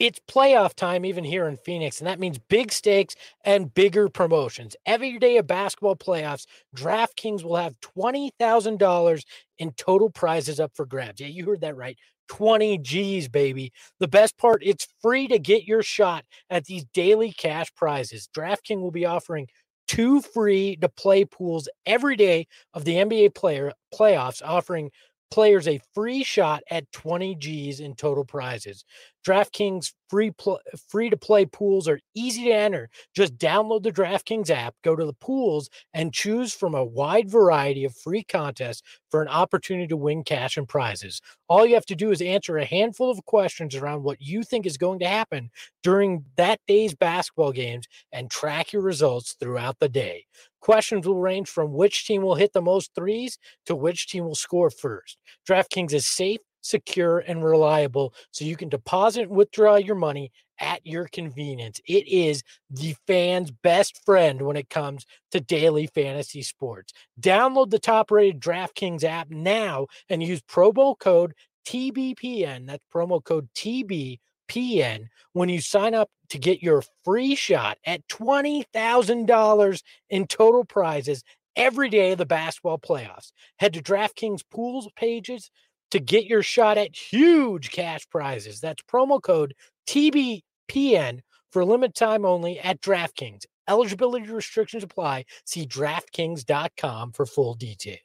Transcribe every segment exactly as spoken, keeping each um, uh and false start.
It's playoff time even here in Phoenix, and that means big stakes and bigger promotions. Every day of basketball playoffs, DraftKings will have twenty thousand dollars in total prizes up for grabs. Yeah, you heard that right. twenty G's, baby. The best part, it's free to get your shot at these daily cash prizes. DraftKings will be offering two free to play pools every day of the N B A player playoffs, offering players a free shot at twenty G's in total prizes. DraftKings free pl- free to play pools are easy to enter. Just download the DraftKings app, go to the pools, and choose from a wide variety of free contests for an opportunity to win cash and prizes. All you have to do is answer a handful of questions around what you think is going to happen during that day's basketball games and track your results throughout the day. Questions will range from which team will hit the most threes to which team will score first. DraftKings is safe, secure, and reliable, so you can deposit and withdraw your money at your convenience. It is the fan's best friend when it comes to daily fantasy sports. Download the top-rated DraftKings app now and use promo code T B P N. That's promo code T B P N when you sign up to get your free shot at twenty thousand dollars in total prizes every day of the basketball playoffs. Head to DraftKings pools pages to get your shot at huge cash prizes. That's promo code T B P N for a limited time only at DraftKings. Eligibility restrictions apply. See DraftKings dot com for full details.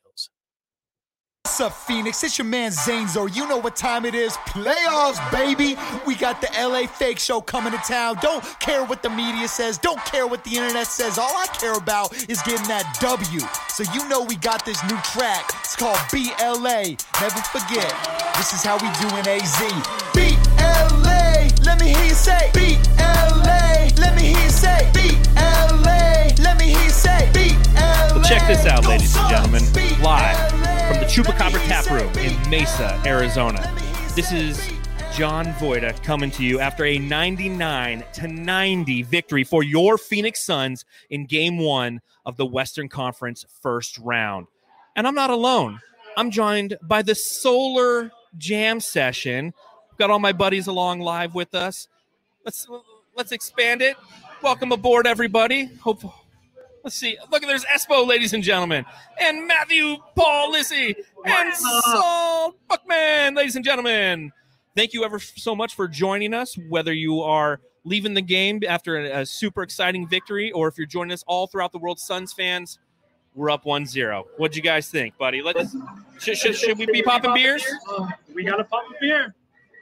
What's up, Phoenix? It's your man Zanezo. You know what time it is. Playoffs, baby. We got the L A Fake Show coming to town. Don't care what the media says. Don't care what the internet says. All I care about is getting that W. So you know we got this new track. It's called B L A. Never forget, this is how we do in A Z. B L A. Let me hear you say B L A. Let me hear you say B L A. Let me hear you say B L A. Well, check this out, ladies and gentlemen. Live from the Chupacabra Tap Room in Mesa, Arizona. This is John Voida coming to you after a ninety-nine to ninety victory for your Phoenix Suns in Game One of the Western Conference first round. And I'm not alone. I'm joined by the Solar Jam Session. Got all my buddies along live with us. Let's let's expand it. Welcome aboard, everybody. Hope. Let's see. Look, there's Espo, ladies and gentlemen, and Matthew Paul Lissy, and Saul Buckman, ladies and gentlemen. Thank you ever so much for joining us, whether you are leaving the game after a, a super exciting victory or if you're joining us all throughout the world. Suns fans, we're up one zero. What'd you guys think, buddy? Let's should, should, should we be popping beers? Uh, we got to pop a beer.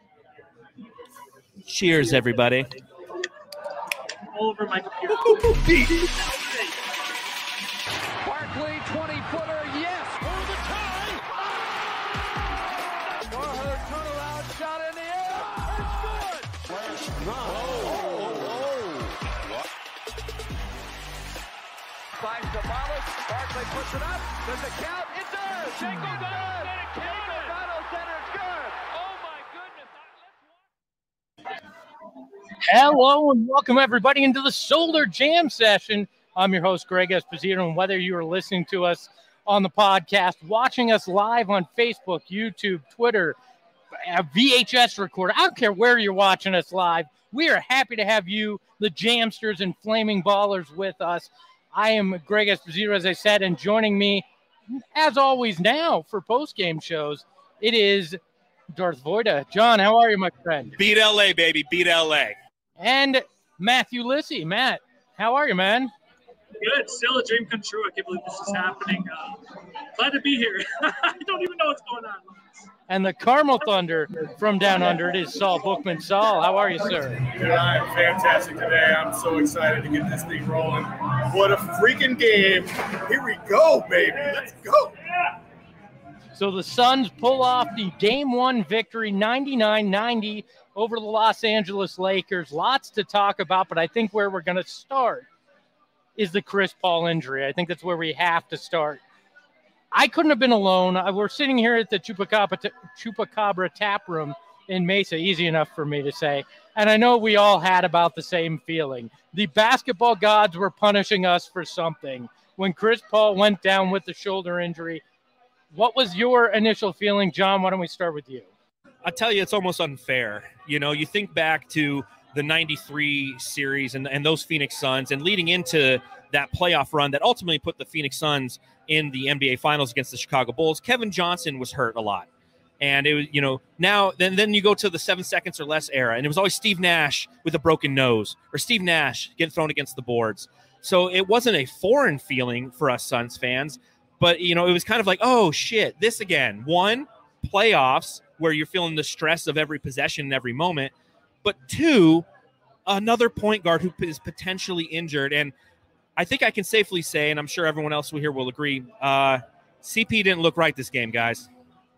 Cheers, everybody. All over my computer. Barkley, twenty-footer, yes, for the tie. Warhurst turnaround shot in the air. It's good. Whoa, whoa, whoa. Finds the Wallace. Barkley puts it up. Does it count? It does. Shake O'Donnell said it counted. O'Donnell said it's good. Oh, my goodness. Hello and welcome everybody into the Solar Jam Session. I'm your host, Greg Esposito, and whether you are listening to us on the podcast, watching us live on Facebook, YouTube, Twitter, a V H S recorder, I don't care where you're watching us live, we are happy to have you, the Jamsters and Flaming Ballers, with us. I am Greg Esposito, as I said, and joining me, as always now, for post-game shows, it is Darth Voida. John, how are you, my friend? Beat L A, baby. Beat L A. And Matthew Lissy. Matt, how are you, man? Good. Still a dream come true. I can't believe this is happening. Uh, glad to be here. I don't even know what's going on. And the Carmel Thunder from down under, it is Saul Bookman. Saul, how are you, sir? Dude, I am fantastic today. I'm so excited to get this thing rolling. What a freaking game. Here we go, baby. Let's go. So the Suns pull off the game one victory, ninety-nine ninety over the Los Angeles Lakers. Lots to talk about, but I think where we're going to start is the Chris Paul injury. I think that's where we have to start. I couldn't have been alone. We're sitting here at the Chupacabra, Chupacabra Tap Room in Mesa, easy enough for me to say. And I know we all had about the same feeling. The basketball gods were punishing us for something. When Chris Paul went down with the shoulder injury, what was your initial feeling? John, why don't we start with you? I tell you, it's almost unfair. You know, you think back to the ninety-three series and, and those Phoenix Suns, and leading into that playoff run that ultimately put the Phoenix Suns in the N B A Finals against the Chicago Bulls. Kevin Johnson was hurt a lot. And it was, you know, now then then you go to the seven seconds or less era, and it was always Steve Nash with a broken nose, or Steve Nash getting thrown against the boards. So it wasn't a foreign feeling for us Suns fans, but, you know, it was kind of like, oh, shit, this again. One, playoffs, where you're feeling the stress of every possession and every moment. But two, another point guard who is potentially injured. And I think I can safely say, and I'm sure everyone else here will agree, uh, C P didn't look right this game, guys.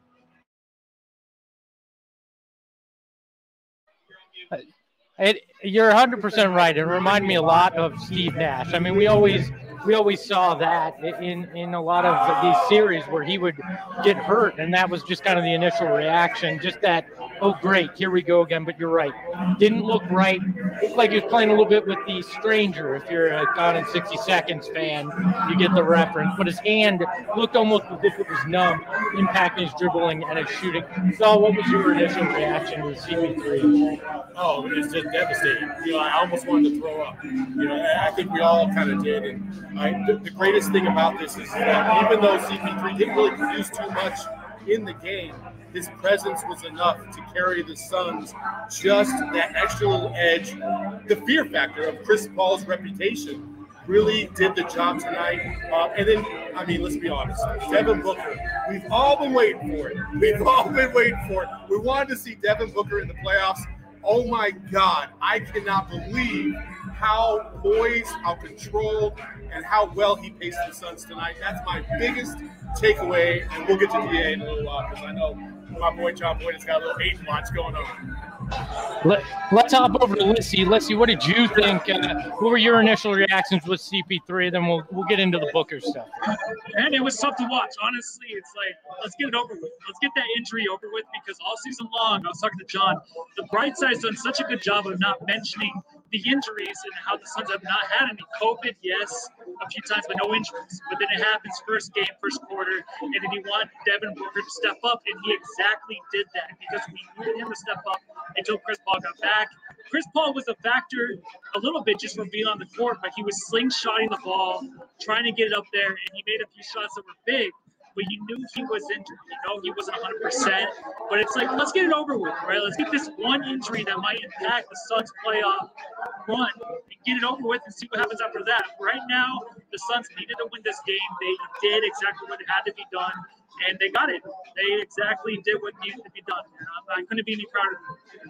It, you're one hundred percent right. It reminded me a lot of Steve Nash. I mean, we always we always saw that in, in a lot of these series where he would get hurt, and that was just kind of the initial reaction, just that, oh, great, here we go again. But you're right. Didn't look right. Looked like he was playing a little bit with the stranger. If you're a Gone in sixty seconds fan, you get the reference. But his hand looked almost as if it was numb, impacting his dribbling and his shooting. So what was your initial reaction to C P three? Oh, it's just devastating. You know, I almost wanted to throw up. You know, I think we all kind of did. And I, the, the greatest thing about this is that even though C P three didn't really produce too much in the game, his presence was enough to carry the Suns just that extra little edge. The fear factor of Chris Paul's reputation really did the job tonight. Uh, and then, I mean, let's be honest, Devin Booker, we've all been waiting for it. We've all been waiting for it. We wanted to see Devin Booker in the playoffs. Oh my God, I cannot believe how poised, how controlled, and how well he paced the Suns tonight. That's my biggest takeaway, and we'll get to D A in a little while because I know my boy John Boyd has got a little eight watch going on. Let, let's hop over to Lissy. Lissy, what did you think? Uh, what were your initial reactions with C P three? Then we'll we'll get into the Booker stuff. And it was tough to watch. Honestly, it's like, let's get it over with. Let's get that injury over with, because all season long, I was talking to John, the bright side's done such a good job of not mentioning the injuries and how the Suns have not had any. COVID, yes, a few times, but no injuries. But then it happens first game, first quarter, and then you want Devin Booker to step up, and he exactly did that because we needed him to step up until Chris Paul got back. Chris Paul was a factor a little bit just from being on the court, but he was slingshotting the ball, trying to get it up there, and he made a few shots that were big. But you knew he was injured. You know he wasn't one hundred percent. But it's like, let's get it over with, right? Let's get this one injury that might impact the Suns' playoff run and get it over with and see what happens after that. Right now, the Suns needed to win this game. They did exactly what had to be done, and they got it. They exactly did what needed to be done. I couldn't be any prouder.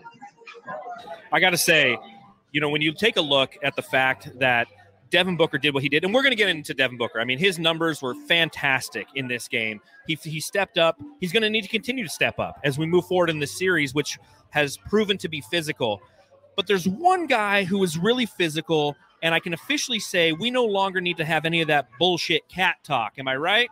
I got to say, you know, when you take a look at the fact that Devin Booker did what he did, and we're going to get into Devin Booker. I mean, his numbers were fantastic in this game. He he stepped up. He's going to need to continue to step up as we move forward in this series, which has proven to be physical. But there's one guy who is really physical, and I can officially say we no longer need to have any of that bullshit cat talk. Am I right?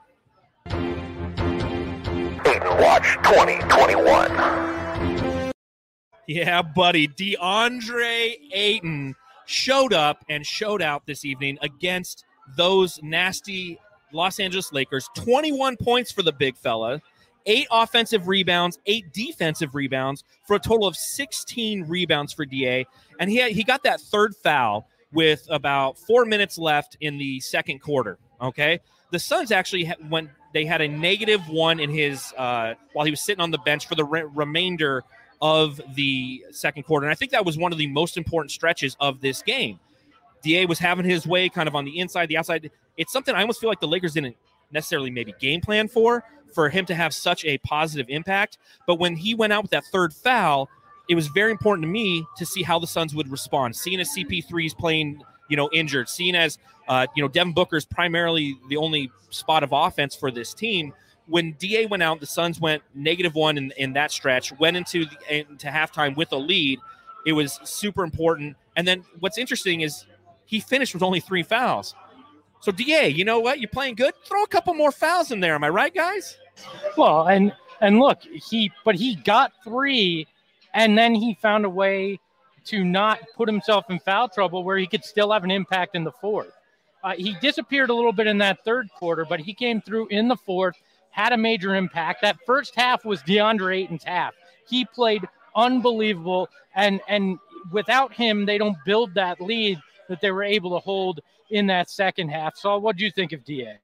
Ayton Watch twenty twenty-one. Yeah, buddy. DeAndre Ayton showed up and showed out this evening against those nasty Los Angeles Lakers. twenty-one points for the big fella, eight offensive rebounds, eight defensive rebounds, for a total of sixteen rebounds for D A. And he had, he got that third foul with about four minutes left in the second quarter, okay? The Suns actually went, they had a negative one in his, uh, while he was sitting on the bench for the re- remainder of the second quarter. And I think that was one of the most important stretches of this game. D A was having his way kind of on the inside, the outside. It's something I almost feel like the Lakers didn't necessarily maybe game plan for, for him to have such a positive impact. But when he went out with that third foul, it was very important to me to see how the Suns would respond. Seeing as C P three's playing, you know, injured, seeing as, uh, you know, Devin Booker's primarily the only spot of offense for this team. When D A went out, the Suns went negative one in, in that stretch, went into the, into halftime with a lead. It was super important. And then what's interesting is he finished with only three fouls. So D A, you know what? You're playing good. Throw a couple more fouls in there. Am I right, guys? Well, and and look, he but he got three, and then he found a way to not put himself in foul trouble where he could still have an impact in the fourth. Uh, he disappeared a little bit in that third quarter, but he came through in the fourth, had a major impact. That first half was DeAndre Ayton's half. He played unbelievable, and and without him, they don't build that lead that they were able to hold in that second half. So what do you think of D A?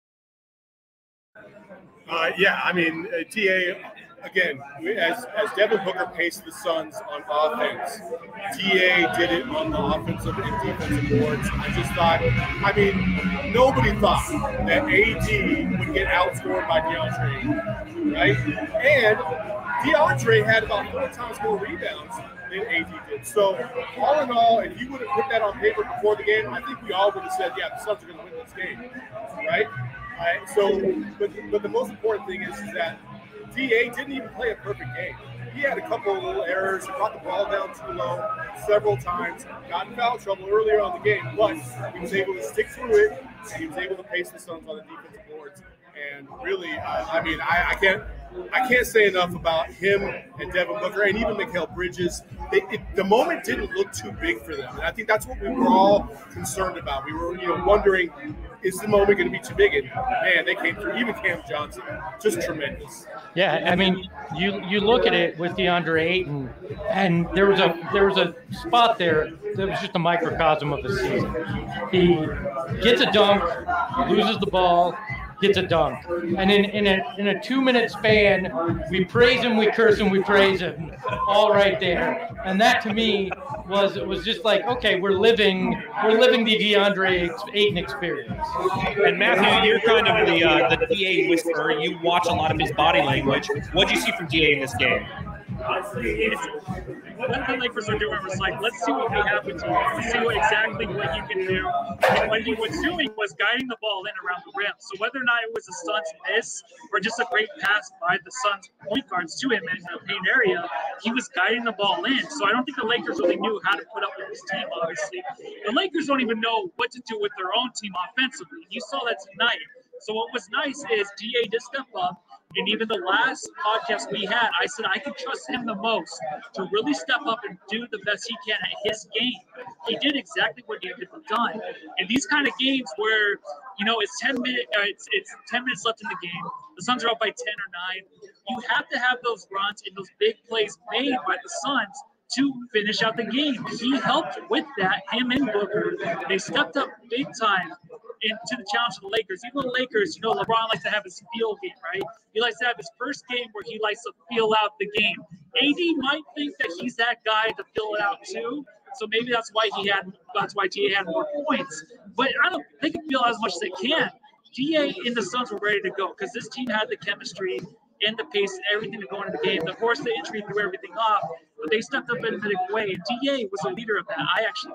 Uh, yeah, I mean, uh, D A, again, as, as Devin Booker paced the Suns on offense, D A did it on the offensive and defensive boards. I just thought, I mean, nobody thought that A D would get outscored by DeAndre, right? And DeAndre had about four times more rebounds than A D did. So, all in all, if you would have put that on paper before the game, I think we all would have said, yeah, the Suns are going to win this game, right? Right, so, but, but the most important thing is, is that D A didn't even play a perfect game. He had a couple of little errors. He brought the ball down too low several times, got in foul trouble earlier on the game, but he was able to stick through it, and he was able to pace the Suns on the defensive boards. And really, uh, I mean, I, I can't I can't say enough about him and Devin Booker and even Mikal Bridges. It, it, the moment didn't look too big for them. And I think that's what we were all concerned about. We were, you know, wondering, is the moment going to be too big? And man, they came through. Even Cam Johnson, just tremendous. Yeah, I mean, you you look at it with DeAndre Ayton, and there was a there was a spot there that was just a microcosm of the season. He gets a dunk, loses the ball, gets a dunk, and in in a in a two minute span, we praise him, we curse him, we praise him, all right there. And that to me was it was just like, okay, we're living we're living the DeAndre Ayton experience. And Matthew, you're kind of the uh, the D A whisperer. You watch a lot of his body language. What did you see from D A in this game? Honestly, it's what the Lakers are doing was like, let's see what we have with you. Let's see what exactly what you can do. And what he was doing was guiding the ball in around the rim. So whether or not it was a Suns miss or just a great pass by the Suns point guards to him in the paint area, he was guiding the ball in. So I don't think the Lakers really knew how to put up with his team, obviously. The Lakers don't even know what to do with their own team offensively. You saw that tonight. So what was nice is D A did step up. And even the last podcast we had, I said I could trust him the most to really step up and do the best he can at his game. He did exactly what he had done. And these kind of games where, you know, it's ten minutes, uh, it's it's ten minutes left in the game. The Suns are up by ten or nine. You have to have those runs and those big plays made by the Suns to finish out the game. He helped with that, him and Booker. They stepped up big time into the challenge of the Lakers. Even the Lakers, you know, LeBron likes to have his feel game, right? He likes to have his first game where he likes to feel out the game. A D might think that he's that guy to fill it out too. So maybe that's why he had, that's why D A had more points. But I don't, they can feel as much as they can. D A and the Suns were ready to go because this team had the chemistry and the pace and everything to go into the game. Of course, the injury threw everything off, but they stepped up in a big way. And D A was a leader of that, I actually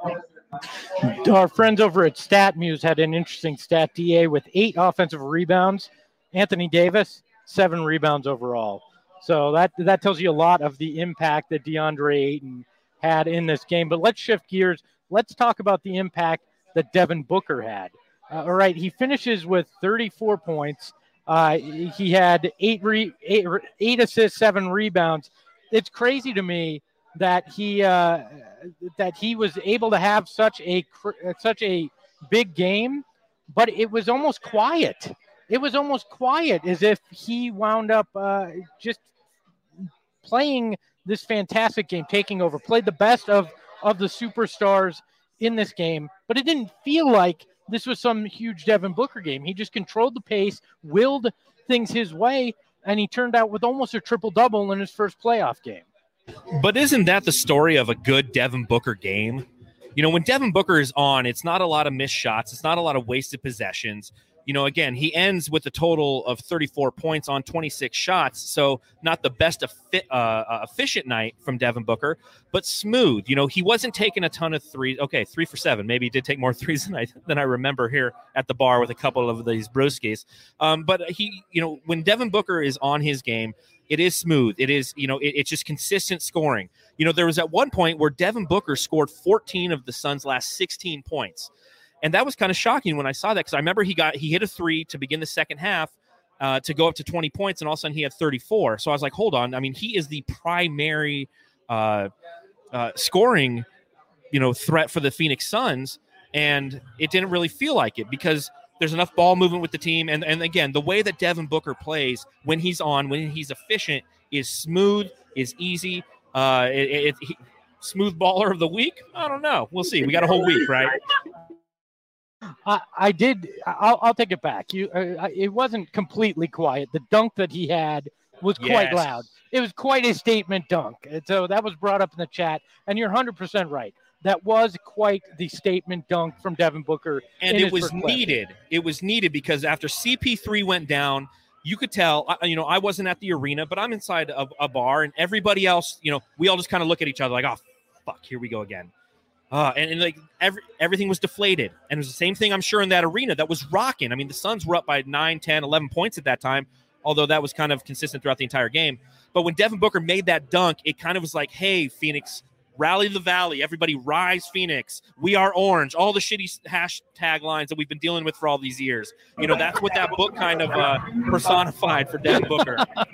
think. Our friends over at StatMuse had an interesting stat. D A with eight offensive rebounds. Anthony Davis, seven rebounds overall. So that that tells you a lot of the impact that DeAndre Ayton had in this game. But let's shift gears. Let's talk about the impact that Devin Booker had. Uh, all right, he finishes with thirty-four points. Uh, he had eight, re- eight, eight assists, seven rebounds. It's crazy to me that he uh, that he was able to have such a such a big game, but it was almost quiet. It was almost quiet, as if he wound up uh, just playing this fantastic game, taking over, played the best of of the superstars in this game, but it didn't feel like this was some huge Devin Booker game. He just controlled the pace, willed things his way, and he turned out with almost a triple-double in his first playoff game. But isn't that the story of a good Devin Booker game? You know, when Devin Booker is on, it's not a lot of missed shots. It's not a lot of wasted possessions. You know, again, he ends with a total of thirty-four points on twenty-six shots. So not the best effi- uh, efficient night from Devin Booker, but smooth. You know, he wasn't taking a ton of threes. Okay, three for seven. Maybe he did take more threes than I, than I remember here at the bar with a couple of these brewskis. Um, but he, you know, when Devin Booker is on his game, it is smooth. It is, you know, it, it's just consistent scoring. You know, there was at one point where Devin Booker scored fourteen of the Suns' last sixteen points. And that was kind of shocking when I saw that, because I remember he got he hit a three to begin the second half uh, to go up to twenty points, and all of a sudden he had thirty-four. So I was like, hold on. I mean, he is the primary uh, uh, scoring, you know, threat for the Phoenix Suns, and it didn't really feel like it because there's enough ball movement with the team. And, and again, the way that Devin Booker plays when he's on, when he's efficient, is smooth. is easy. Uh, it, it, it, smooth baller of the week? I don't know. We'll see. We got a whole week, right? I, I did. I'll, I'll take it back. You, uh, it wasn't completely quiet. The dunk that he had was quite Yes. loud. It was quite a statement dunk. And so that was brought up in the chat, and you're one hundred percent right. That was quite the statement dunk from Devin Booker. And in it his was first play. needed. It was needed because after C P three went down, you could tell, I- you know, I wasn't at the arena, but I'm inside a, a bar, and everybody else, you know, we all just kind of look at each other like, oh, fuck, here we go again. Uh, and, and like every, everything was deflated. And it was the same thing, I'm sure, in that arena that was rocking. I mean, the Suns were up by nine, ten, eleven points at that time, although that was kind of consistent throughout the entire game. But when Devin Booker made that dunk, it kind of was like, hey, Phoenix, rally the valley. Everybody rise, Phoenix. We are orange. All the shitty hashtag lines that we've been dealing with for all these years. You know, that's what that book kind of uh, personified for Devin Booker.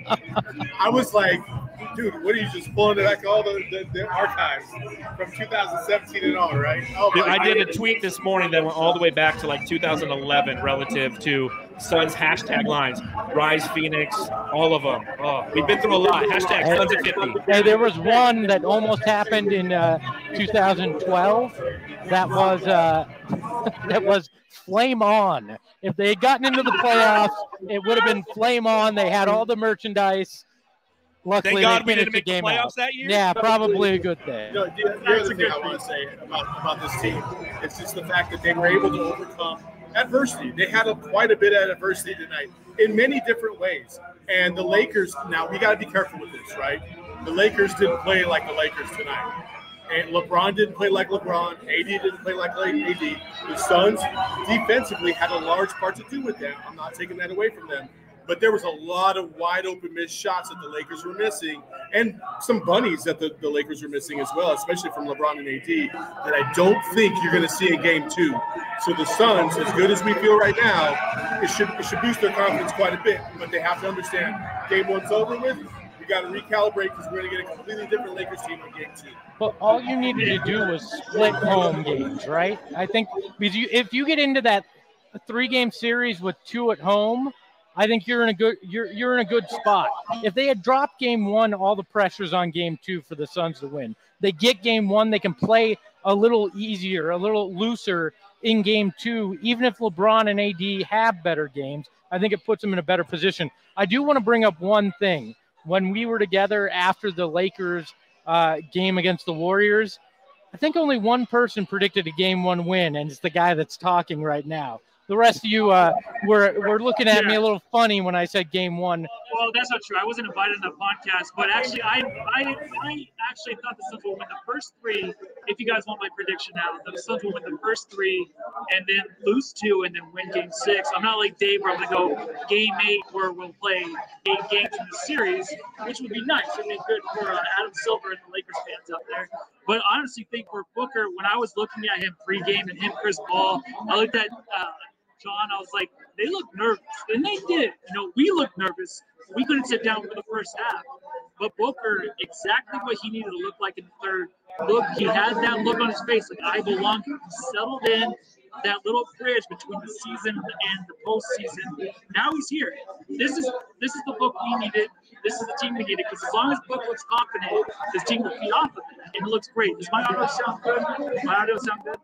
I was like, dude, what are you just pulling back all the, the, the archives from two thousand seventeen and on, right? Oh, Dude, my I did a God. tweet this morning that went all the way back to like two thousand eleven relative to Suns hashtag lines. Rise Phoenix, all of them. Oh, we've been through a lot. Hashtag Suns at fifty. Hey, there was one that almost happened in uh, two thousand twelve. That was uh, that was flame on. If they had gotten into the playoffs, it would have been flame on. They had all the merchandise. Luckily, Thank God they we finished didn't make the the game playoffs out. that year. Yeah, probably a good thing. You know, the, the other thing I want to say about, about this team is just the fact that they were able to overcome adversity. They had a, quite a bit of adversity tonight in many different ways. And the Lakers, now we got to be careful with this, right? The Lakers didn't play like the Lakers tonight. And LeBron didn't play like LeBron. A D didn't play like A D. The Suns defensively had a large part to do with that. I'm not taking that away from them. But there was a lot of wide open missed shots that the Lakers were missing, and some bunnies that the, the Lakers were missing as well, especially from LeBron and A D, that I don't think you're going to see in game two. So the Suns, as good as we feel right now, it should it should boost their confidence quite a bit. But they have to understand game one's over with. We got to recalibrate because we're going to get a completely different Lakers team in game two. But all you needed to do was split home games, right? I think because you, if you get into that three-game series with two at home, I think you're in a good you're you're in a good spot. If they had dropped game one, all the pressure's on game two for the Suns to win. They get game one, they can play a little easier, a little looser in game two. Even if LeBron and A D have better games, I think it puts them in a better position. I do want to bring up one thing. When we were together after the Lakers uh, game against the Warriors, I think only one person predicted a game one win, and it's the guy that's talking right now. The rest of you uh, were, were looking at Yeah. me a little funny when I said game one. Well, that's not true. I wasn't invited on the podcast, but actually, I I, I actually thought the Suns would win the first three. If you guys want my prediction now, the Suns will win the first three and then lose two and then win game six. I'm not like Dave where I'm going to go game eight where we'll play eight games in the series, which would be nice. It would be good for uh, Adam Silver and the Lakers fans out there. But I honestly think for Booker, when I was looking at him pregame and him, Chris Paul, I looked at uh, John, I was like, they look nervous. And they did. You know, we looked nervous. We couldn't sit down for the first half. But Booker, exactly what he needed to look like in the third. Look, he had that look on his face, like I belong. He settled in that little bridge between the season and the postseason. Now he's here. This is this is the Book we needed. This is the team we needed. Because as long as Book looks confident, this team will feed off of it. And it looks great. Does my audio sound good? Does my audio sound good?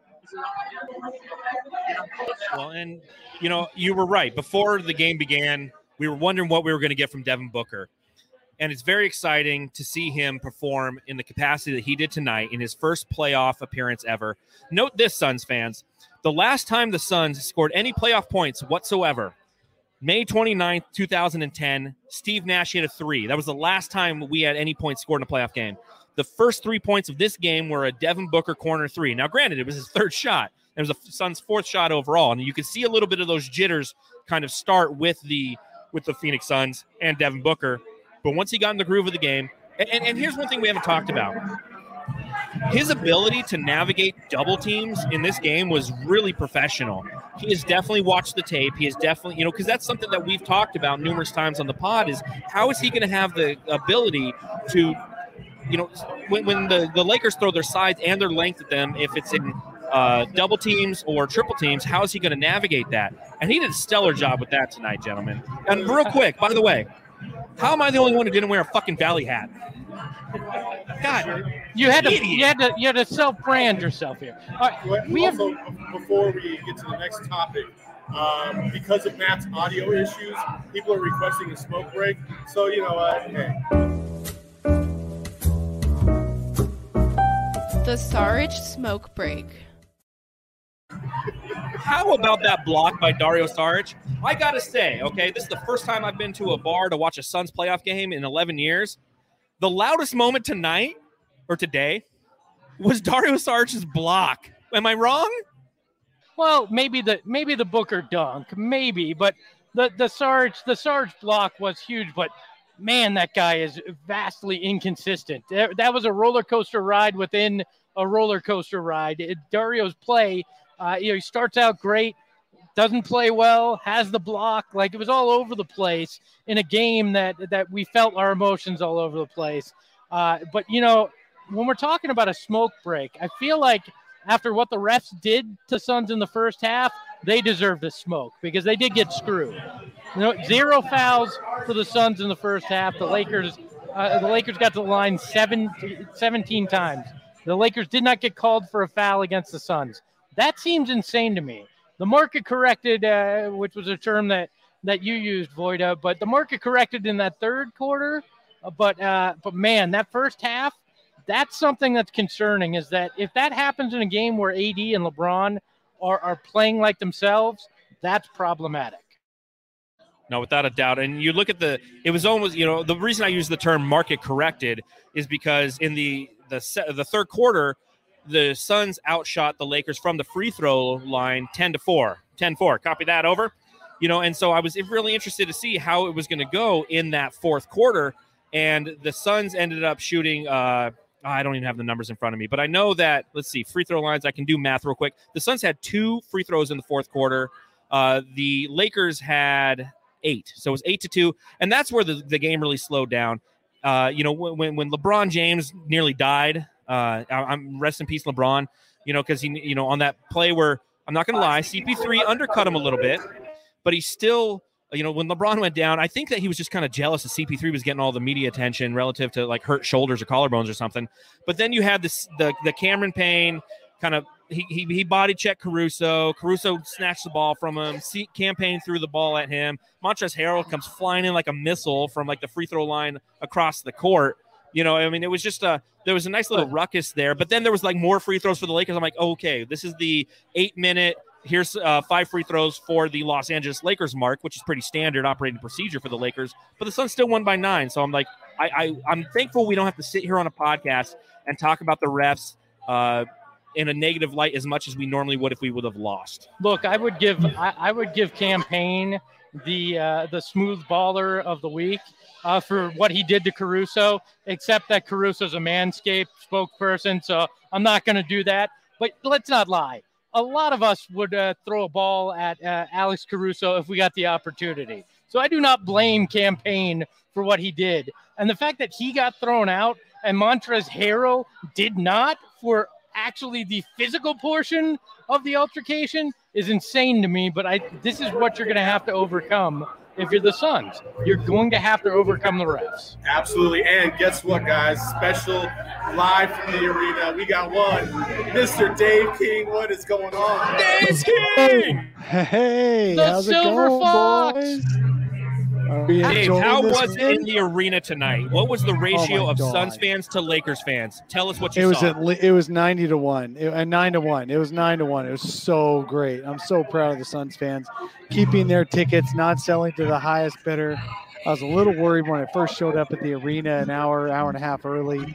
Well, and, you know, you were right. Before the game began, we were wondering what we were going to get from Devin Booker. And it's very exciting to see him perform in the capacity that he did tonight in his first playoff appearance ever. Note this, Suns fans. The last time the Suns scored any playoff points whatsoever, May twenty-ninth, two thousand ten, Steve Nash hit a three. That was the last time we had any points scored in a playoff game. The first three points of this game were a Devin Booker corner three. Now, granted, it was his third shot. It was the Suns' fourth shot overall, and you could see a little bit of those jitters kind of start with the with the Phoenix Suns and Devin Booker. But once he got in the groove of the game, and, and, and here's one thing we haven't talked about. His ability to navigate double teams in this game was really professional. He has definitely watched the tape. He has definitely, you know, because that's something that we've talked about numerous times on the pod is how is he going to have the ability to, you know, when, when the, the Lakers throw their size and their length at them, if it's in uh, double teams or triple teams, how is he going to navigate that? And he did a stellar job with that tonight, gentlemen. And real quick, by the way, how am I the only one who didn't wear a fucking Valley hat? God, You had to idiot. you had to you had to self-brand yourself here. All right, we have also, before we get to the next topic, um, because of Matt's audio issues, people are requesting a smoke break. So, you know what? Hey. The Sarge smoke break. How about that block by Dario Saric? I got to say, okay, this is the first time I've been to a bar to watch a Suns playoff game in eleven years. The loudest moment tonight, or today, was Dario Saric's block. Am I wrong? Well, maybe the maybe the Booker dunk, maybe, but the the Sarge the Sarge block was huge. But man, that guy is vastly inconsistent. That, that was a roller coaster ride within a roller coaster ride. It, Dario's play, uh, you know, he starts out great, doesn't play well, has the block, like it was all over the place in a game that that we felt our emotions all over the place. Uh, but you know, when we're talking about a smoke break, I feel like after what the refs did to Suns in the first half, they deserve the smoke because they did get screwed. You know, zero fouls for the Suns in the first half. The Lakers, uh, the Lakers got to the line seven, seventeen times. The Lakers did not get called for a foul against the Suns. That seems insane to me. The market corrected, uh, which was a term that, that you used, Voida, but the market corrected in that third quarter. Uh, but uh, but man, that first half, that's something that's concerning. Is that if that happens in a game where A D and LeBron are are playing like themselves, that's problematic. No, without a doubt. And you look at the, it was almost, you know, the reason I use the term market corrected is because in the the se- the third quarter, the Suns outshot the Lakers from the free throw line ten to four. ten four. Copy that, over. You know, and so I was really interested to see how it was going to go in that fourth quarter. And the Suns ended up shooting, uh, I don't even have the numbers in front of me, but I know that, let's see, free throw lines. I can do math real quick. The Suns had two free throws in the fourth quarter. Uh, the Lakers had eight. So it was eight to two. And that's where the, the game really slowed down. Uh, you know, when, when LeBron James nearly died, uh, I'm rest in peace, LeBron, you know, because he, you know, on that play where, I'm not going to lie, C P three undercut him a little bit, but he still, you know, when LeBron went down, I think that he was just kind of jealous that C P three was getting all the media attention relative to like hurt shoulders or collarbones or something. But then you had this, the, the Cameron Payne kind of, he, he, he body checked Caruso. Caruso snatched the ball from him. C- Campaign threw the ball at him. Montrezl Harrell comes flying in like a missile from like the free throw line across the court. You know, I mean, it was just a, there was a nice little ruckus there, but then there was like more free throws for the Lakers. I'm like, okay, this is the eight minute, here's uh, five free throws for the Los Angeles Lakers mark, which is pretty standard operating procedure for the Lakers, but the Suns still won by nine. So I'm like, I, I I'm thankful we don't have to sit here on a podcast and talk about the refs uh, in a negative light as much as we normally would if we would have lost. Look, I would give, I, I would give Campaign the, uh, the smooth baller of the week. Uh, for what he did to Caruso, except that Caruso's a Manscaped spokesperson, so I'm not going to do that. But let's not lie. A lot of us would uh, throw a ball at uh, Alex Caruso if we got the opportunity. So I do not blame Campaign for what he did. And the fact that he got thrown out and Montrezl Harrell did not for actually the physical portion of the altercation is insane to me. But I this is what you're going to have to overcome. If you're the Suns, you're going to have to overcome the refs. Absolutely. And guess what, guys? Special live from the arena. We got one, Mister Dave King. What is going on? Dave King! Hey, The how's Silver it going, Fox! boys? Are we Dave, enjoying how this was it win? in the arena tonight? What was the ratio Oh my of God. Suns fans to Lakers fans? Tell us what you It was saw. at le- it was ninety to one, it, uh, nine to one. It was nine to one. It was so great. I'm so proud of the Suns fans keeping their tickets, not selling to the highest bidder. I was a little worried when I first showed up at the arena an hour, hour and a half early.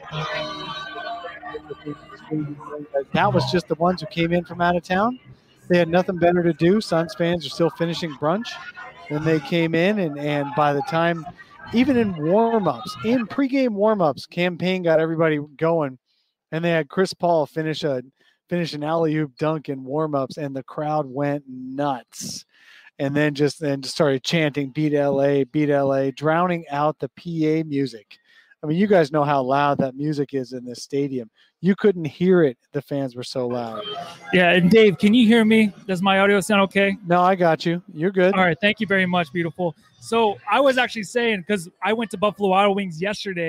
That was just the ones who came in from out of town. They had nothing better to do. Suns fans are still finishing brunch. Then they came in, and, and by the time, even in warm-ups, in pregame warm-ups, Campaign got everybody going, and they had Chris Paul finish a finish an alley-oop dunk in warm-ups, and the crowd went nuts. And then just then just started chanting, beat L A, beat L A, drowning out the P A music. I mean, you guys know how loud that music is in this stadium. You couldn't hear it. The fans were so loud. Yeah, and Dave, can you hear me? Does my audio sound okay? No, I got you. You're good. All right, thank you very much, beautiful. So I was actually saying, because I went to Buffalo Wild Wings yesterday,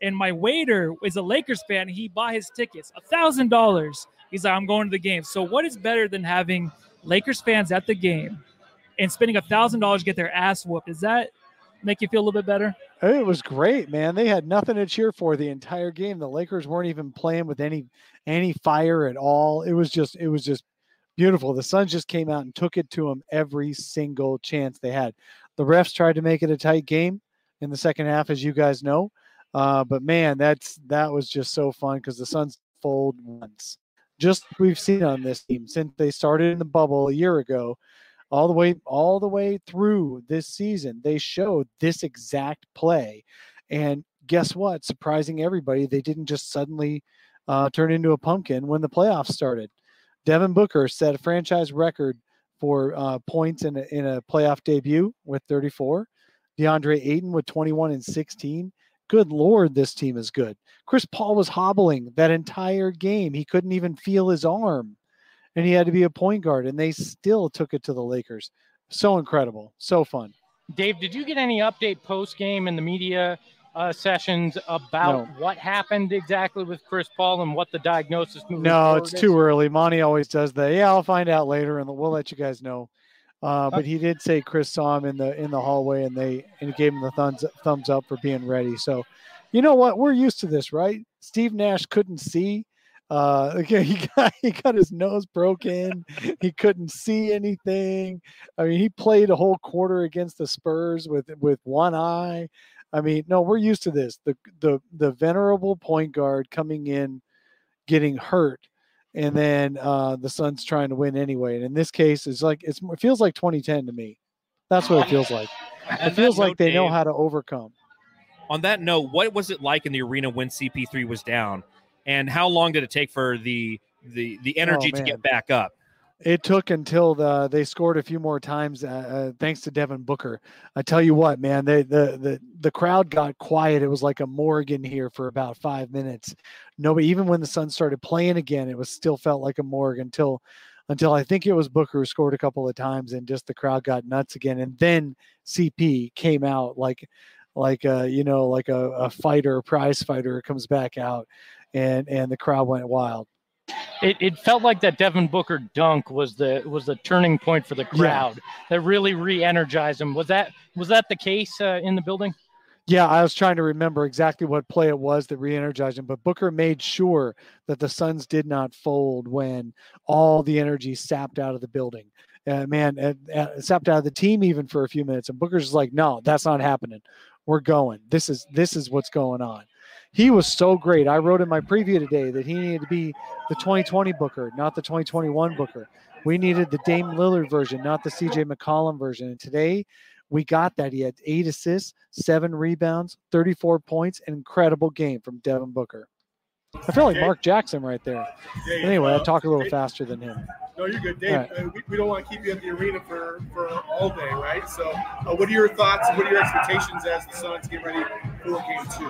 And my waiter is a Lakers fan. He bought his tickets, one thousand dollars. He's like, I'm going to the game. So what is better than having Lakers fans at the game and spending one thousand dollars to get their ass whooped? Does that make you feel a little bit better? It was great, man. They had nothing to cheer for the entire game. The Lakers weren't even playing with any any fire at all. It was just it was just beautiful. The Suns just came out and took it to them every single chance they had. The refs tried to make it a tight game in the second half, as you guys know. Uh, but man, that's that was just so fun because the Suns fold once. Just like we've seen on this team since they started in the bubble a year ago, all the way all the way through this season, they showed this exact play. And guess what? Surprising everybody, they didn't just suddenly uh, turn into a pumpkin when the playoffs started. Devin Booker set a franchise record for uh, points in a, in a playoff debut with thirty-four. DeAndre Ayton with twenty-one and sixteen. Good Lord, this team is good. Chris Paul was hobbling that entire game. He couldn't even feel his arm, and he had to be a point guard, and they still took it to the Lakers. So incredible. So fun. Dave, did you get any update post-game in the media uh, sessions about No. what happened exactly with Chris Paul and what the diagnosis moving No, forward it's is? too early. Monty always does that. Yeah, I'll find out later, and we'll let you guys know. Uh, but he did say Chris saw him in the in the hallway, and they and he gave him the thumbs thumbs up for being ready. So, you know what? We're used to this, right? Steve Nash couldn't see. Uh, he got he got his nose broken. He couldn't see anything. I mean, he played a whole quarter against the Spurs with with one eye. I mean, no, we're used to this. The the the venerable point guard coming in, getting hurt. And then uh, the Suns trying to win anyway. And in this case, it's like it's, it feels like twenty ten to me. That's what it feels like. It feels like they know how to overcome. On that note, what was it like in the arena when C P three was down, and how long did it take for the the the energy Oh, to man. get back up? It took until the, they scored a few more times, uh, uh, thanks to Devin Booker. I tell you what, man, they, the the the crowd got quiet. It was like a Morgan here for about five minutes. Nobody, even when the Suns started playing again, it was still felt like a morgue until until I think it was Booker who scored a couple of times, and just the crowd got nuts again. And then C P came out like like a, you know, like a, a fighter, a prize fighter comes back out, and and the crowd went wild. It, it felt like that Devin Booker dunk was the was the turning point for the crowd that really re-energized him. Was that was that the case uh, in the building? Yeah, I was trying to remember exactly what play it was that re-energized him, but Booker made sure that the Suns did not fold when all the energy sapped out of the building. Uh, man, uh, uh, sapped out of the team even for a few minutes, and Booker's just like, no, that's not happening. We're going. This is this is what's going on. He was so great. I wrote in my preview today that he needed to be the twenty twenty Booker, not the twenty twenty-one Booker. We needed the Dame Lillard version, not the C J McCollum version. And today we got that. He had eight assists, seven rebounds, thirty-four points, an incredible game from Devin Booker. I feel like Mark Jackson right there. Dave, Anyway, I uh, talk a little Dave- faster than him. No, you're good, Dave. All right. Uh, we, we don't want to keep you at the arena for, for all day, right? So, uh, what are your thoughts? What are your expectations as the Suns get ready for game two?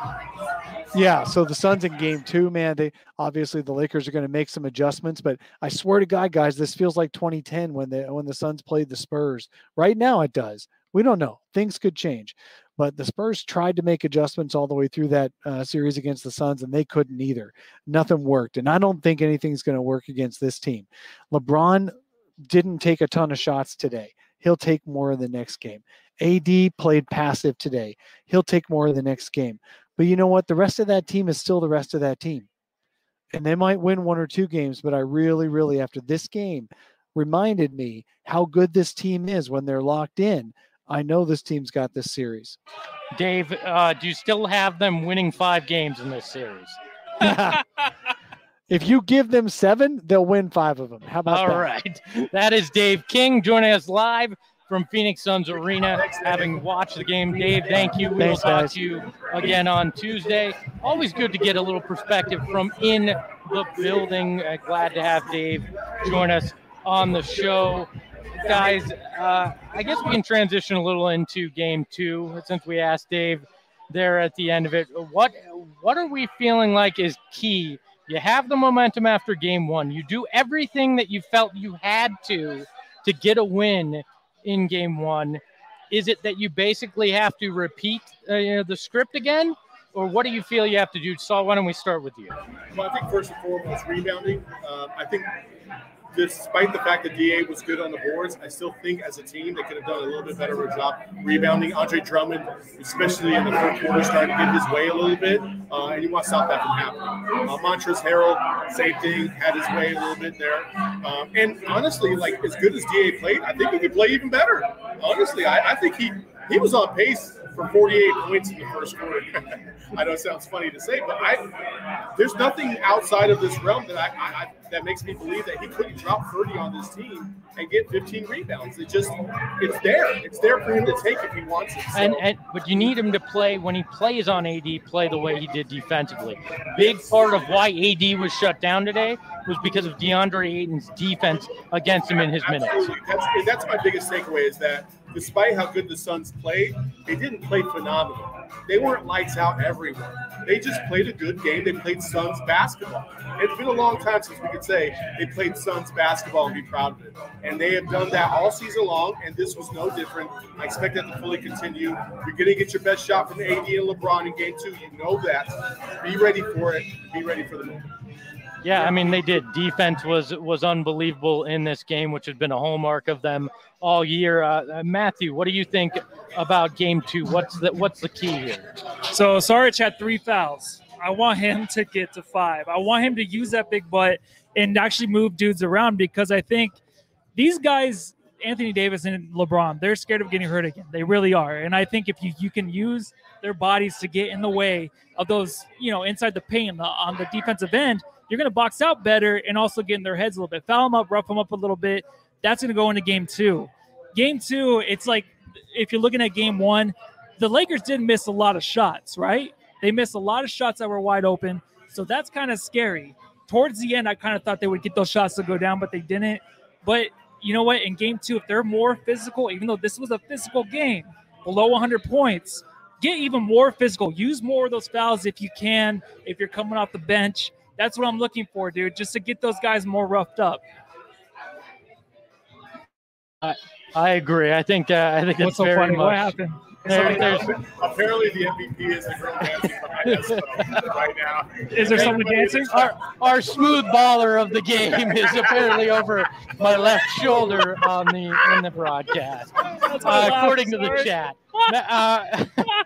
Yeah, so the Suns in game two, man, they obviously the Lakers are going to make some adjustments, but I swear to God, guys, this feels like twenty ten when the when the Suns played the Spurs. Right now it does. We don't know. Things could change. But the Spurs tried to make adjustments all the way through that uh, series against the Suns, and they couldn't either. Nothing worked. And I don't think anything's going to work against this team. LeBron didn't take a ton of shots today. He'll take more in the next game. A D played passive today. He'll take more in the next game. But you know what? The rest of that team is still the rest of that team. And they might win one or two games, but I really, really, after this game, reminded me how good this team is when they're locked in. I know this team's got this series. Dave, uh, do you still have them winning five games in this series? If you give them seven, they'll win five of them. How about All that? right. That is Dave King joining us live from Phoenix Suns Arena, having watched the game. Dave, thank you. We Thanks, will talk guys. to you again on Tuesday. Always good to get a little perspective from in the building. Uh, glad to have Dave join us on the show. Guys, uh, I guess we can transition a little into game two since we asked Dave there at the end of it. What what are we feeling like is key? You have the momentum after game one. You do everything that you felt you had to to get a win in game one. Is it that you basically have to repeat uh, you know, the script again? or what do you feel you have to do? Saul, why don't we start with you? Well, I think first and foremost, rebounding. Um, I think despite the fact that D A was good on the boards, I still think as a team they could have done a little bit better of a job rebounding. Andre Drummond, especially in the third quarter, started to get his way a little bit, uh, and you want to stop that from happening. Uh, Montrezl Harrell, same thing, had his way a little bit there. Um, and honestly, like as good as D A played, I think he could play even better. Honestly, I, I think he he was on pace for forty-eight points in the first quarter. I know it sounds funny to say, but I there's nothing outside of this realm that I, I, I that makes me believe that he couldn't drop thirty on this team and get fifteen rebounds. It just it's there. It's there for him to take if he wants it. So. And, and but you need him to play when he plays on A D, play the way he did defensively. Big part of why A D was shut down today was because of DeAndre Ayton's defense against him in his minutes. That's, that's my biggest takeaway is that despite how good the Suns played, they didn't play phenomenal. They weren't lights out everywhere. They just played a good game. They played Suns basketball. It's been a long time since we could say they played Suns basketball and be proud of it. And they have done that all season long, and this was no different. I expect that to fully continue. You're going to get your best shot from A D and LeBron in game two. You know that. Be ready for it. Be ready for the moment. Yeah, I mean, they did. Defense was was unbelievable in this game, which has been a hallmark of them all year. Uh, Matthew, what do you think about game two? What's the, what's the key here? So Saric had three fouls. I want him to get to five. I want him to use that big butt and actually move dudes around because I think these guys, Anthony Davis and LeBron, they're scared of getting hurt again. They really are. And I think if you, you can use their bodies to get in the way of those, you know, inside the paint on the defensive end, you're going to box out better and also get in their heads a little bit. Foul them up, rough them up a little bit. That's going to go into game two. Game two, it's like if you're looking at game one, the Lakers did miss a lot of shots, right? They missed a lot of shots that were wide open. So that's kind of scary. Towards the end, I kind of thought they would get those shots to go down, but they didn't. But you know what? In game two, if they're more physical, even though this was a physical game, below one hundred points, get even more physical. Use more of those fouls if you can, if you're coming off the bench. That's what I'm looking for, dude, just to get those guys more roughed up. I, I agree. I think uh, I think What's it's so very funny? much. What happened? There, there's, Apparently, the M V P is the girl dancing behind us right now. Is there someone dancing? Our, our smooth baller of the game is apparently over my left shoulder on the in the broadcast, uh, according to the chat. Uh,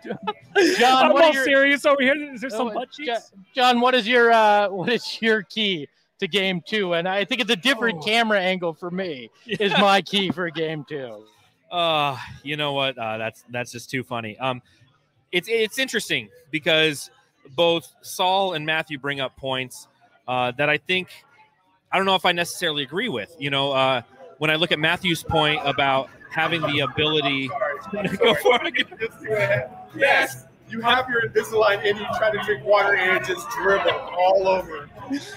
John, I'm what all are your, serious over here. Is there some oh, butt cheeks? John, what is your uh, what is your key to game two? And I think it's a different Oh. camera angle for me. Is my key for game two. Uh, you know what? Uh, that's that's just too funny. Um, it's it's interesting because both Saul and Matthew bring up points uh, that I think I don't know if I necessarily agree with. You know, uh, when I look at Matthew's point about having the ability to go for it. Yes, you have your Invisalign and you try to drink water and it just dribble all over.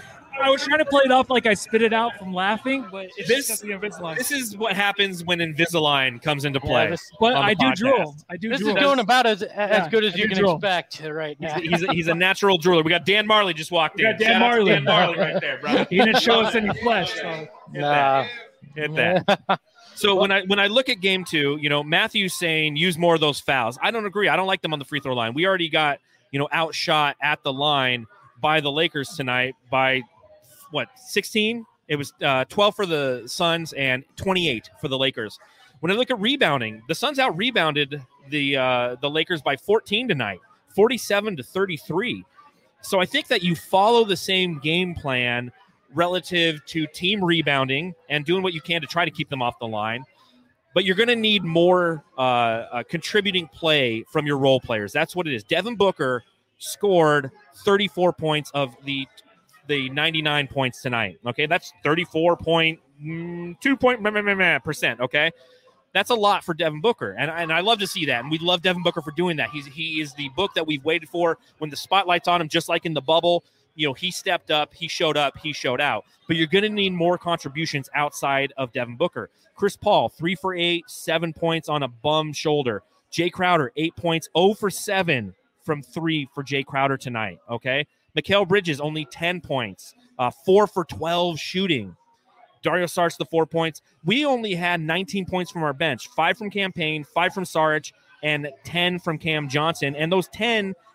I was trying to play it off like I spit it out from laughing, but it's This- just the Invisalign. This is what happens when Invisalign comes into play. Yeah, this- But on the I do podcast. drool. I do This drool. is doing about as as Yeah, good as I you do can drool. expect right now. He's, he's, a, he's a natural drooler. We got Dan Marley just walked We in. got Dan Shout out to Marley. Dan Marley right there, bro. He didn't show us any flesh. So. Hit Nah. that. Hit that. So when I when I look at game two, you know, Matthew's saying use more of those fouls. I don't agree. I don't like them on the free throw line. We already got, you know, outshot at the line by the Lakers tonight by what, sixteen? It was uh, twelve for the Suns and twenty-eight for the Lakers. When I look at rebounding, the Suns out rebounded the uh, the Lakers by fourteen tonight, forty-seven to thirty-three. So I think that you follow the same game plan relative to team rebounding and doing what you can to try to keep them off the line. But you're going to need more uh, uh, contributing play from your role players. That's what it is. Devin Booker scored thirty-four points of the the ninety-nine points tonight. Okay, that's thirty-four point two percent. Okay, that's a lot for Devin Booker, and and I love to see that, and we love Devin Booker for doing that. He's he is the book that we've waited for. When the spotlight's on him, just like in the bubble, you know, he stepped up, he showed up, he showed out. But you're going to need more contributions outside of Devin Booker. Chris Paul, three for eight, seven points on a bum shoulder. Jay Crowder, eight points, zero for seven from three for Jay Crowder tonight. Okay. Mikal Bridges, only ten points, uh, four for twelve shooting. Dario Saric, the four points. We only had nineteen points from our bench, five from Cam Payne, five from Saric, and ten from Cam Johnson. And those ten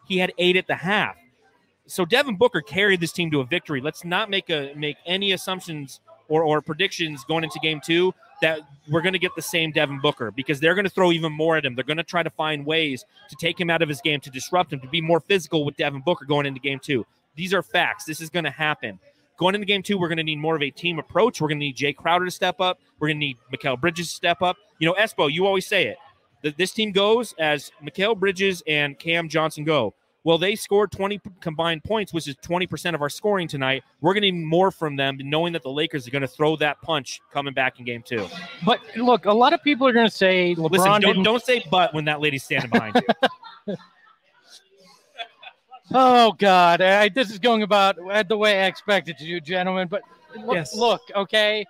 He had eight at the half. So Devin Booker carried this team to a victory. Let's not make a make any assumptions or, or predictions going into game two that we're going to get the same Devin Booker, because they're going to throw even more at him. They're going to try to find ways to take him out of his game, to disrupt him, to be more physical with Devin Booker going into game two. These are facts. This is going to happen. Going into game two, we're going to need more of a team approach. We're going to need Jay Crowder to step up. We're going to need Mikal Bridges to step up. You know, Espo, you always say it. That this team goes as Mikal Bridges and Cam Johnson go. Well, they scored twenty combined points, which is twenty percent of our scoring tonight. We're going to need more from them, knowing that the Lakers are going to throw that punch coming back in game two. But look, a lot of people are going to say LeBron Listen, don't, didn't... don't say but when that lady's standing behind you. Oh, God. I, this is going about the way I expected to do, gentlemen. But look, Yes. look, okay,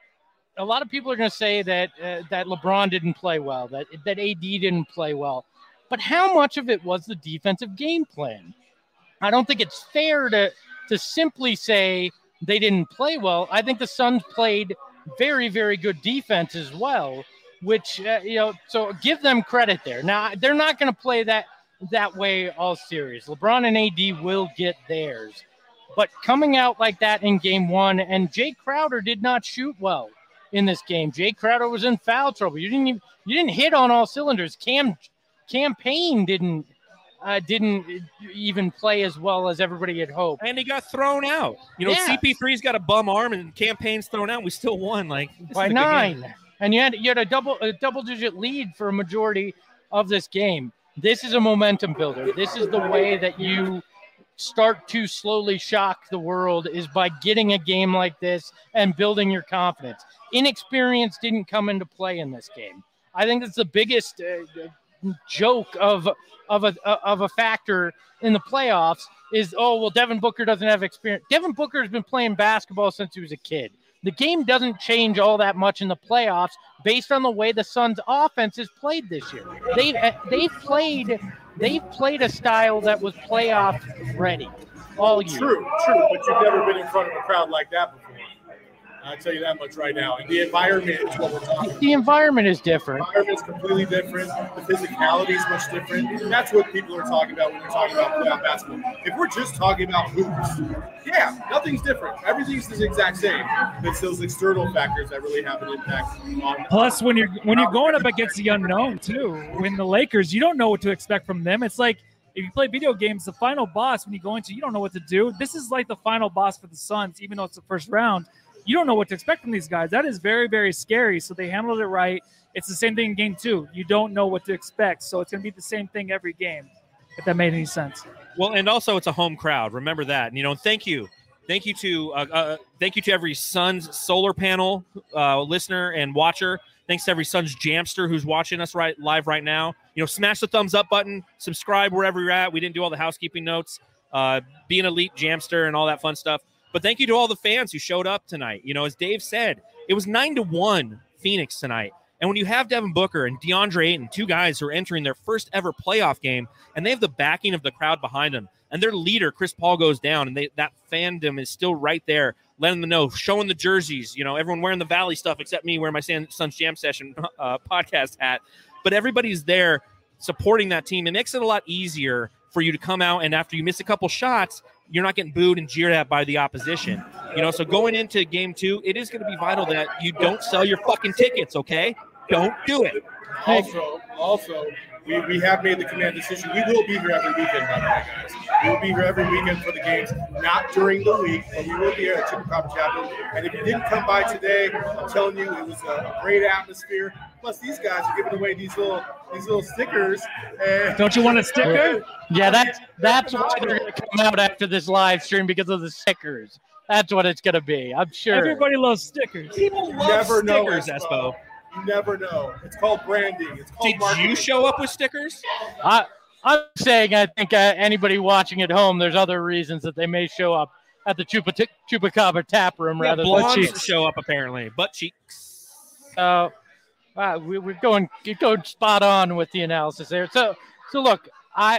a lot of people are going to say that uh, that LeBron didn't play well, that, that A D didn't play well. But how much of it was the defensive game plan? I don't think it's fair to to simply say they didn't play well. I think the Suns played very, very good defense as well, which, uh, you know, so give them credit there. Now, they're not going to play that that way all series. LeBron and A D will get theirs. But coming out like that in game one, and Jay Crowder did not shoot well in this game. Jay Crowder was in foul trouble. You didn't even, you didn't hit on all cylinders. Cam Campaign didn't uh, didn't even play as well as everybody had hoped. And he got thrown out. You know, Yeah. C P three's got a bum arm, and Campaign's thrown out. And we still won, like this By is a good nine. game. And you had you had a double a double digit lead for a majority of this game. This is a momentum builder. This is the way that you start to slowly shock the world, is by getting a game like this and building your confidence. Inexperience didn't come into play in this game. I think that's the biggest uh, joke of of a of a factor in the playoffs is, oh, well, Devin Booker doesn't have experience. Devin Booker has been playing basketball since he was a kid. The game doesn't change all that much in the playoffs based on the way the Suns' offense is played this year. They've they've played they've played a style that was playoff ready all year. True, true, but you've never been in front of a crowd like that before. I'll tell you that much right now. And the environment is what we're talking about. The environment is different. The environment is completely different. The physicality is much different. And that's what people are talking about when they're talking about playoff basketball. If we're just talking about hoops, yeah, nothing's different. Everything's the exact same. It's those external factors that really have an impact on. Plus, when you're when you're going up against the unknown too, when the Lakers, you don't know what to expect from them. It's like if you play video games, the final boss when you go into, you don't know what to do. This is like the final boss for the Suns, even though it's the first round. You don't know what to expect from these guys. That is very, very scary. So they handled it right. It's the same thing in game two. You don't know what to expect. So it's going to be the same thing every game, if that made any sense. Well, and also it's a home crowd. Remember that. And, you know, thank you. Thank you to uh, uh, thank you to every Suns solar panel uh, listener and watcher. Thanks to every Suns Jamster who's watching us right live right now. You know, smash the thumbs up button. Subscribe wherever you're at. We didn't do all the housekeeping notes. Uh, be an elite Jamster and all that fun stuff. But thank you to all the fans who showed up tonight. You know, as Dave said, it was nine to one Phoenix tonight. And when you have Devin Booker and DeAndre Ayton, two guys who are entering their first ever playoff game, and they have the backing of the crowd behind them, and their leader, Chris Paul, goes down, and they, that fandom is still right there, letting them know, showing the jerseys, you know, everyone wearing the Valley stuff except me wearing my Suns Jam Session uh, podcast hat. But everybody's there supporting that team. It makes it a lot easier for you to come out, and after you miss a couple shots, you're not getting booed and jeered at by the opposition. You know, so going into game two, it is going to be vital that you don't sell your fucking tickets, okay? Don't do it. Also, also, we, we have made the command decision. We will be here every weekend, by the way, guys. We will be here every weekend for the games, not during the week, but we will be here at Chupacabra Chapel. And if you didn't come by today, I'm telling you, it was a great atmosphere. Plus, these guys are giving away these little these little stickers. And Don't you want a sticker? Yeah, that's that's why they're going to come out after this live stream, because of the stickers. That's what it's going to be. I'm sure. Everybody loves stickers. People love never know, stickers, Espo. Espo. You never know. It's called branding. It's called Did marketing. you show up with stickers? I, I'm saying I think uh, anybody watching at home, there's other reasons that they may show up at the Chupa t- Chupacabra tap room Yeah, rather than blondes cheeks. show up apparently. Butt cheeks. Uh, uh, we, we're going you're going spot on with the analysis there. So so look, I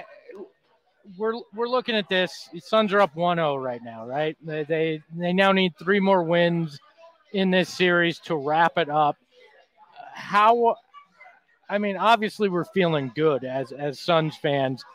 we're we're looking at this. The Suns are up one oh right now, right? They, they they now need three more wins in this series to wrap it up. How? I mean, obviously we're feeling good as as Suns fans,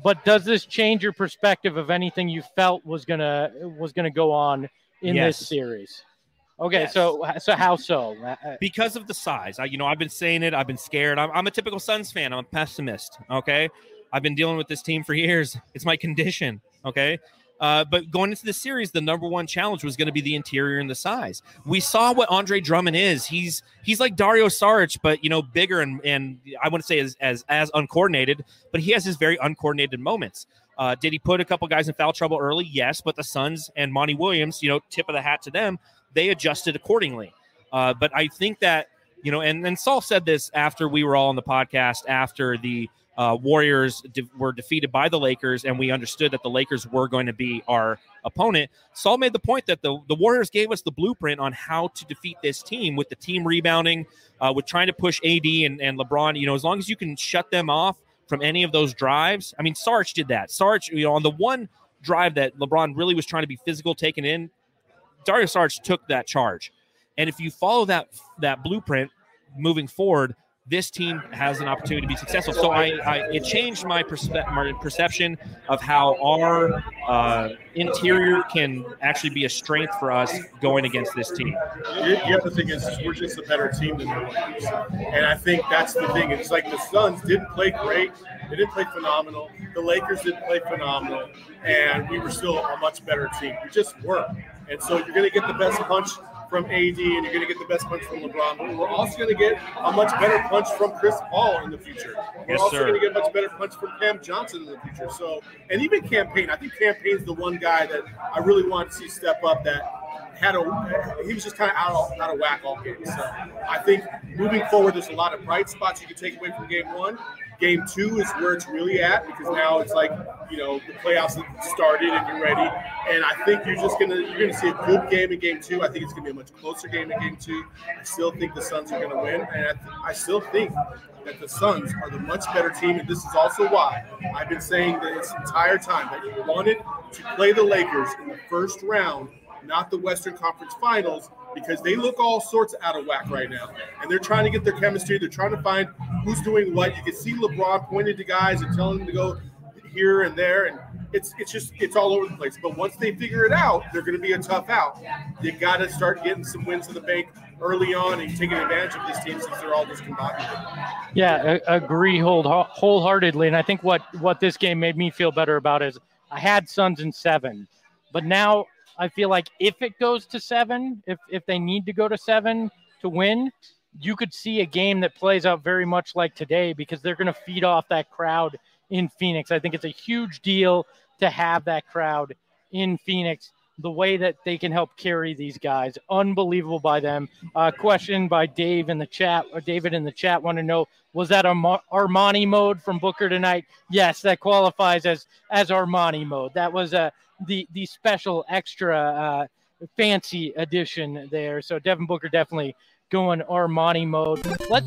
But does this change your perspective of anything you felt was gonna was gonna go on in Yes. this series? Okay, Yes. so so how so? Uh, Because of the size. I, you know, I've been saying it. I've been scared. I'm, I'm a typical Suns fan. I'm a pessimist, okay? I've been dealing with this team for years. It's my condition, okay? Uh, but going into the series, the number one challenge was going to be the interior and the size. We saw what Andre Drummond is. He's he's like Dario Saric, but, you know, bigger and, and I wouldn't say as, as, as uncoordinated, but he has his very uncoordinated moments. Uh, did he put a couple guys in foul trouble early? Yes, but the Suns and Monty Williams, you know, tip of the hat to them, they adjusted accordingly. Uh, but I think that, you know, and, and Saul said this after we were all on the podcast, after the uh, Warriors de- were defeated by the Lakers, and we understood that the Lakers were going to be our opponent. Saul made the point that the, the Warriors gave us the blueprint on how to defeat this team with the team rebounding, uh, with trying to push A D and, and LeBron. You know, as long as you can shut them off from any of those drives. I mean, Saric did that. Saric, you know, on the one drive that LeBron really was trying to be physical, taken in, Dario Saric took that charge. And if you follow that that blueprint moving forward, this team has an opportunity to be successful. So I, I it changed my, perspe- my perception of how our uh, interior can actually be a strength for us going against this team. The other thing is we're just a better team than the Lakers. And I think that's the thing. It's like the Suns didn't play great. They didn't play phenomenal. The Lakers didn't play phenomenal. And we were still a much better team. We just were. And so you're going to get the best punch from A D, and you're going to get the best punch from LeBron. But we're also going to get a much better punch from Chris Paul in the future. We're Yes, also sir. going to get a much better punch from Cam Johnson in the future. So, and even Cam Payne. I think Cam Payne's the one guy that I really want to see step up that had a – he was just kind of out of, out of whack all game. So I think moving forward, there's a lot of bright spots you can take away from game one. Game two is where it's really at because now it's like, you know, the playoffs have started and you're ready. And I think you're just gonna you're gonna see a good game in game two. I think it's gonna be a much closer game in game two. I still think the Suns are gonna win, and I, th- I still think that the Suns are the much better team. And this is also why I've been saying this entire time that you wanted to play the Lakers in the first round, not the Western Conference Finals, because they look all sorts out of whack right now. And they're trying to get their chemistry. They're trying to find who's doing what. You can see LeBron pointing to guys and telling them to go here and there. And it's it's just it's all over the place. But once they figure it out, they're going to be a tough out. You got to start getting some wins in the bank early on and taking advantage of this team since they're all discombobulated. Yeah, I agree whole, wholeheartedly. And I think what, what this game made me feel better about is I had Suns in seven, but now I feel like if it goes to seven, if if they need to go to seven to win, you could see a game that plays out very much like today because they're going to feed off that crowd in Phoenix. I think it's a huge deal to have that crowd in Phoenix, the way that they can help carry these guys. Unbelievable by them. Uh, question by Dave in the chat, or David in the chat, want to know, was that Arma- Armani mode from Booker tonight? Yes, that qualifies as as Armani mode. That was a the the special extra uh, fancy edition there. So Devin Booker definitely going Armani mode. Let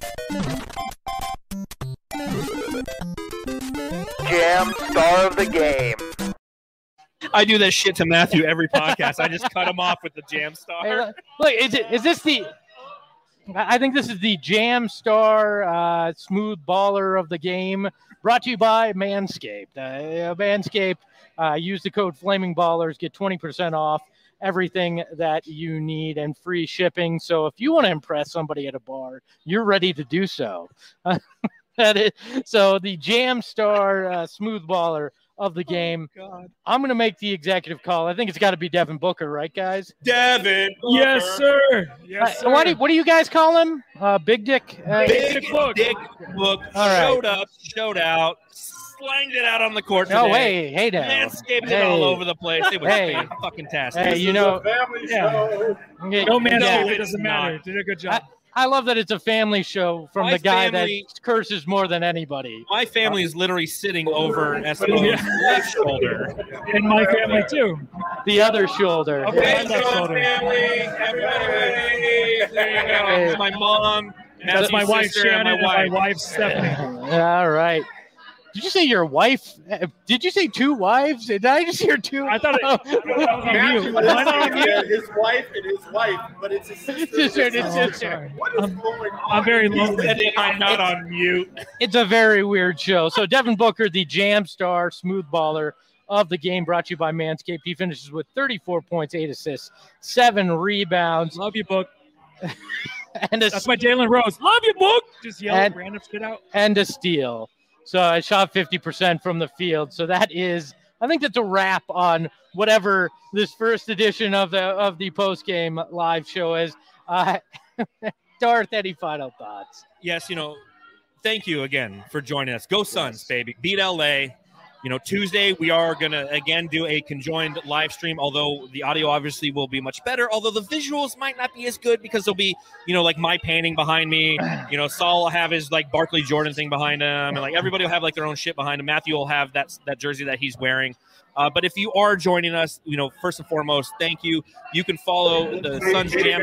Jam star of the game. I do that shit to Matthew every podcast. I just cut him off with the jam star. Hey, look, look, is it is this the? I think this is the Jam Star uh, Smooth Baller of the Game, brought to you by Manscaped. Uh, Manscaped. Uh, use the code Flaming Ballers, get twenty percent off everything that you need and free shipping. So if you want to impress somebody at a bar, you're ready to do so. Uh, that is, so the Jam Star uh, Smooth Baller of the Game. Oh, God. I'm going to make the executive call. I think it's got to be Devin Booker, right, guys? Devin Booker. Yes, sir. Yes, Uh, sir. what, do, what do you guys call him? Uh, Big Dick? Uh, Big Dick Book. Dick Book All right. showed up, showed out, slanged it out on the court today. No, hey, hey now. Manscaped Hey. it all over the place. It was Hey. fucking tastic. Hey, you know, Family Yeah. show. yeah, No man, yeah. it doesn't matter. Did a good job. I love that it's a family show from My the guy family- that curses more than anybody. My family is literally sitting over Esteban's Yeah. left shoulder. And my family too. The other shoulder. Okay, Yeah. Sean family, everybody ready? There you go. Hey. It's my mom. That's my Matthew's wife sister, Shannon and and my my wife. wife Stephanie. All right. Did you say your wife? uh, Did you say two wives? Did I just hear two? I thought it, I thought it was on Matthew mute. was Am I not on saying mute? that his wife and his wife, but it's his sister. sister, and his it's sister. sister. What is I'm- going on? I'm very These lonely. days? I'm not on mute. It's a very weird show. So Devin Booker, the jam star, smooth baller of the game, brought to you by Manscaped. He finishes with thirty-four points, eight assists, seven rebounds, Love you, Book. and a That's my Jalen Rose. Love you, Book. Just yell And- random shit out. and a steal. So I shot fifty percent from the field. So that is, I think that's a wrap on whatever this first edition of the of the post game live show is. Uh, Darth, any final thoughts? Yes, you know, thank you again for joining us. Go Suns, baby. Beat L A. You know, Tuesday we are going to, again, do a conjoined live stream, although the audio obviously will be much better, although the visuals might not be as good because there'll be, you know, like my painting behind me. You know, Saul will have his, like, Barkley Jordan thing behind him, and, like, everybody will have, like, their own shit behind him. Matthew will have that, that jersey that he's wearing. Uh, but if you are joining us, you know, first and foremost, thank you. You can follow the Suns Jam.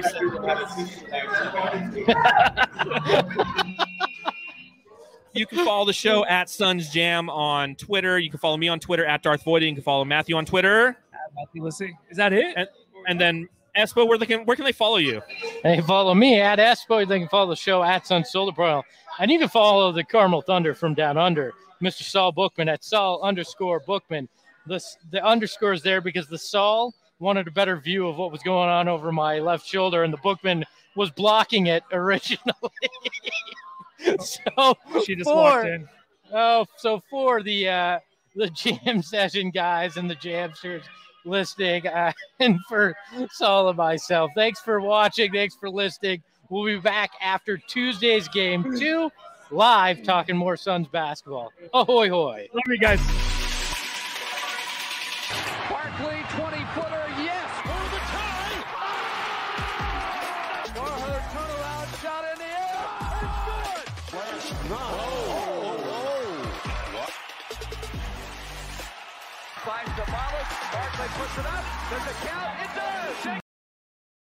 You can follow the show at Suns Jam on Twitter. You can follow me on Twitter at Darth Voida. You can follow Matthew on Twitter. Matthew, let's see. Is that it? And, and then, Espo, where, they can, where can they follow you? They follow me at Espo. They can follow the show at Sun Solar Pro. And you can follow the Carmel Thunder from down under, Mister Saul Bookman at Saul underscore Bookman. The, the underscore is there because the Saul wanted a better view of what was going on over my left shoulder, and the Bookman was blocking it originally. So She just for, walked in. Oh, so for the uh, the jam session guys and the jamsters listening, uh, and for Saul and myself, thanks for watching. Thanks for listening. We'll be back after Tuesday's game two, live talking more Suns basketball. Ahoy, hoy. Love you guys. Barkley, twenty-footer, yes, for the tie. Norher turnaround shot in the air. It's good. No. Oh, oh, oh. Finds the Barkley puts it up. There's a count. It does.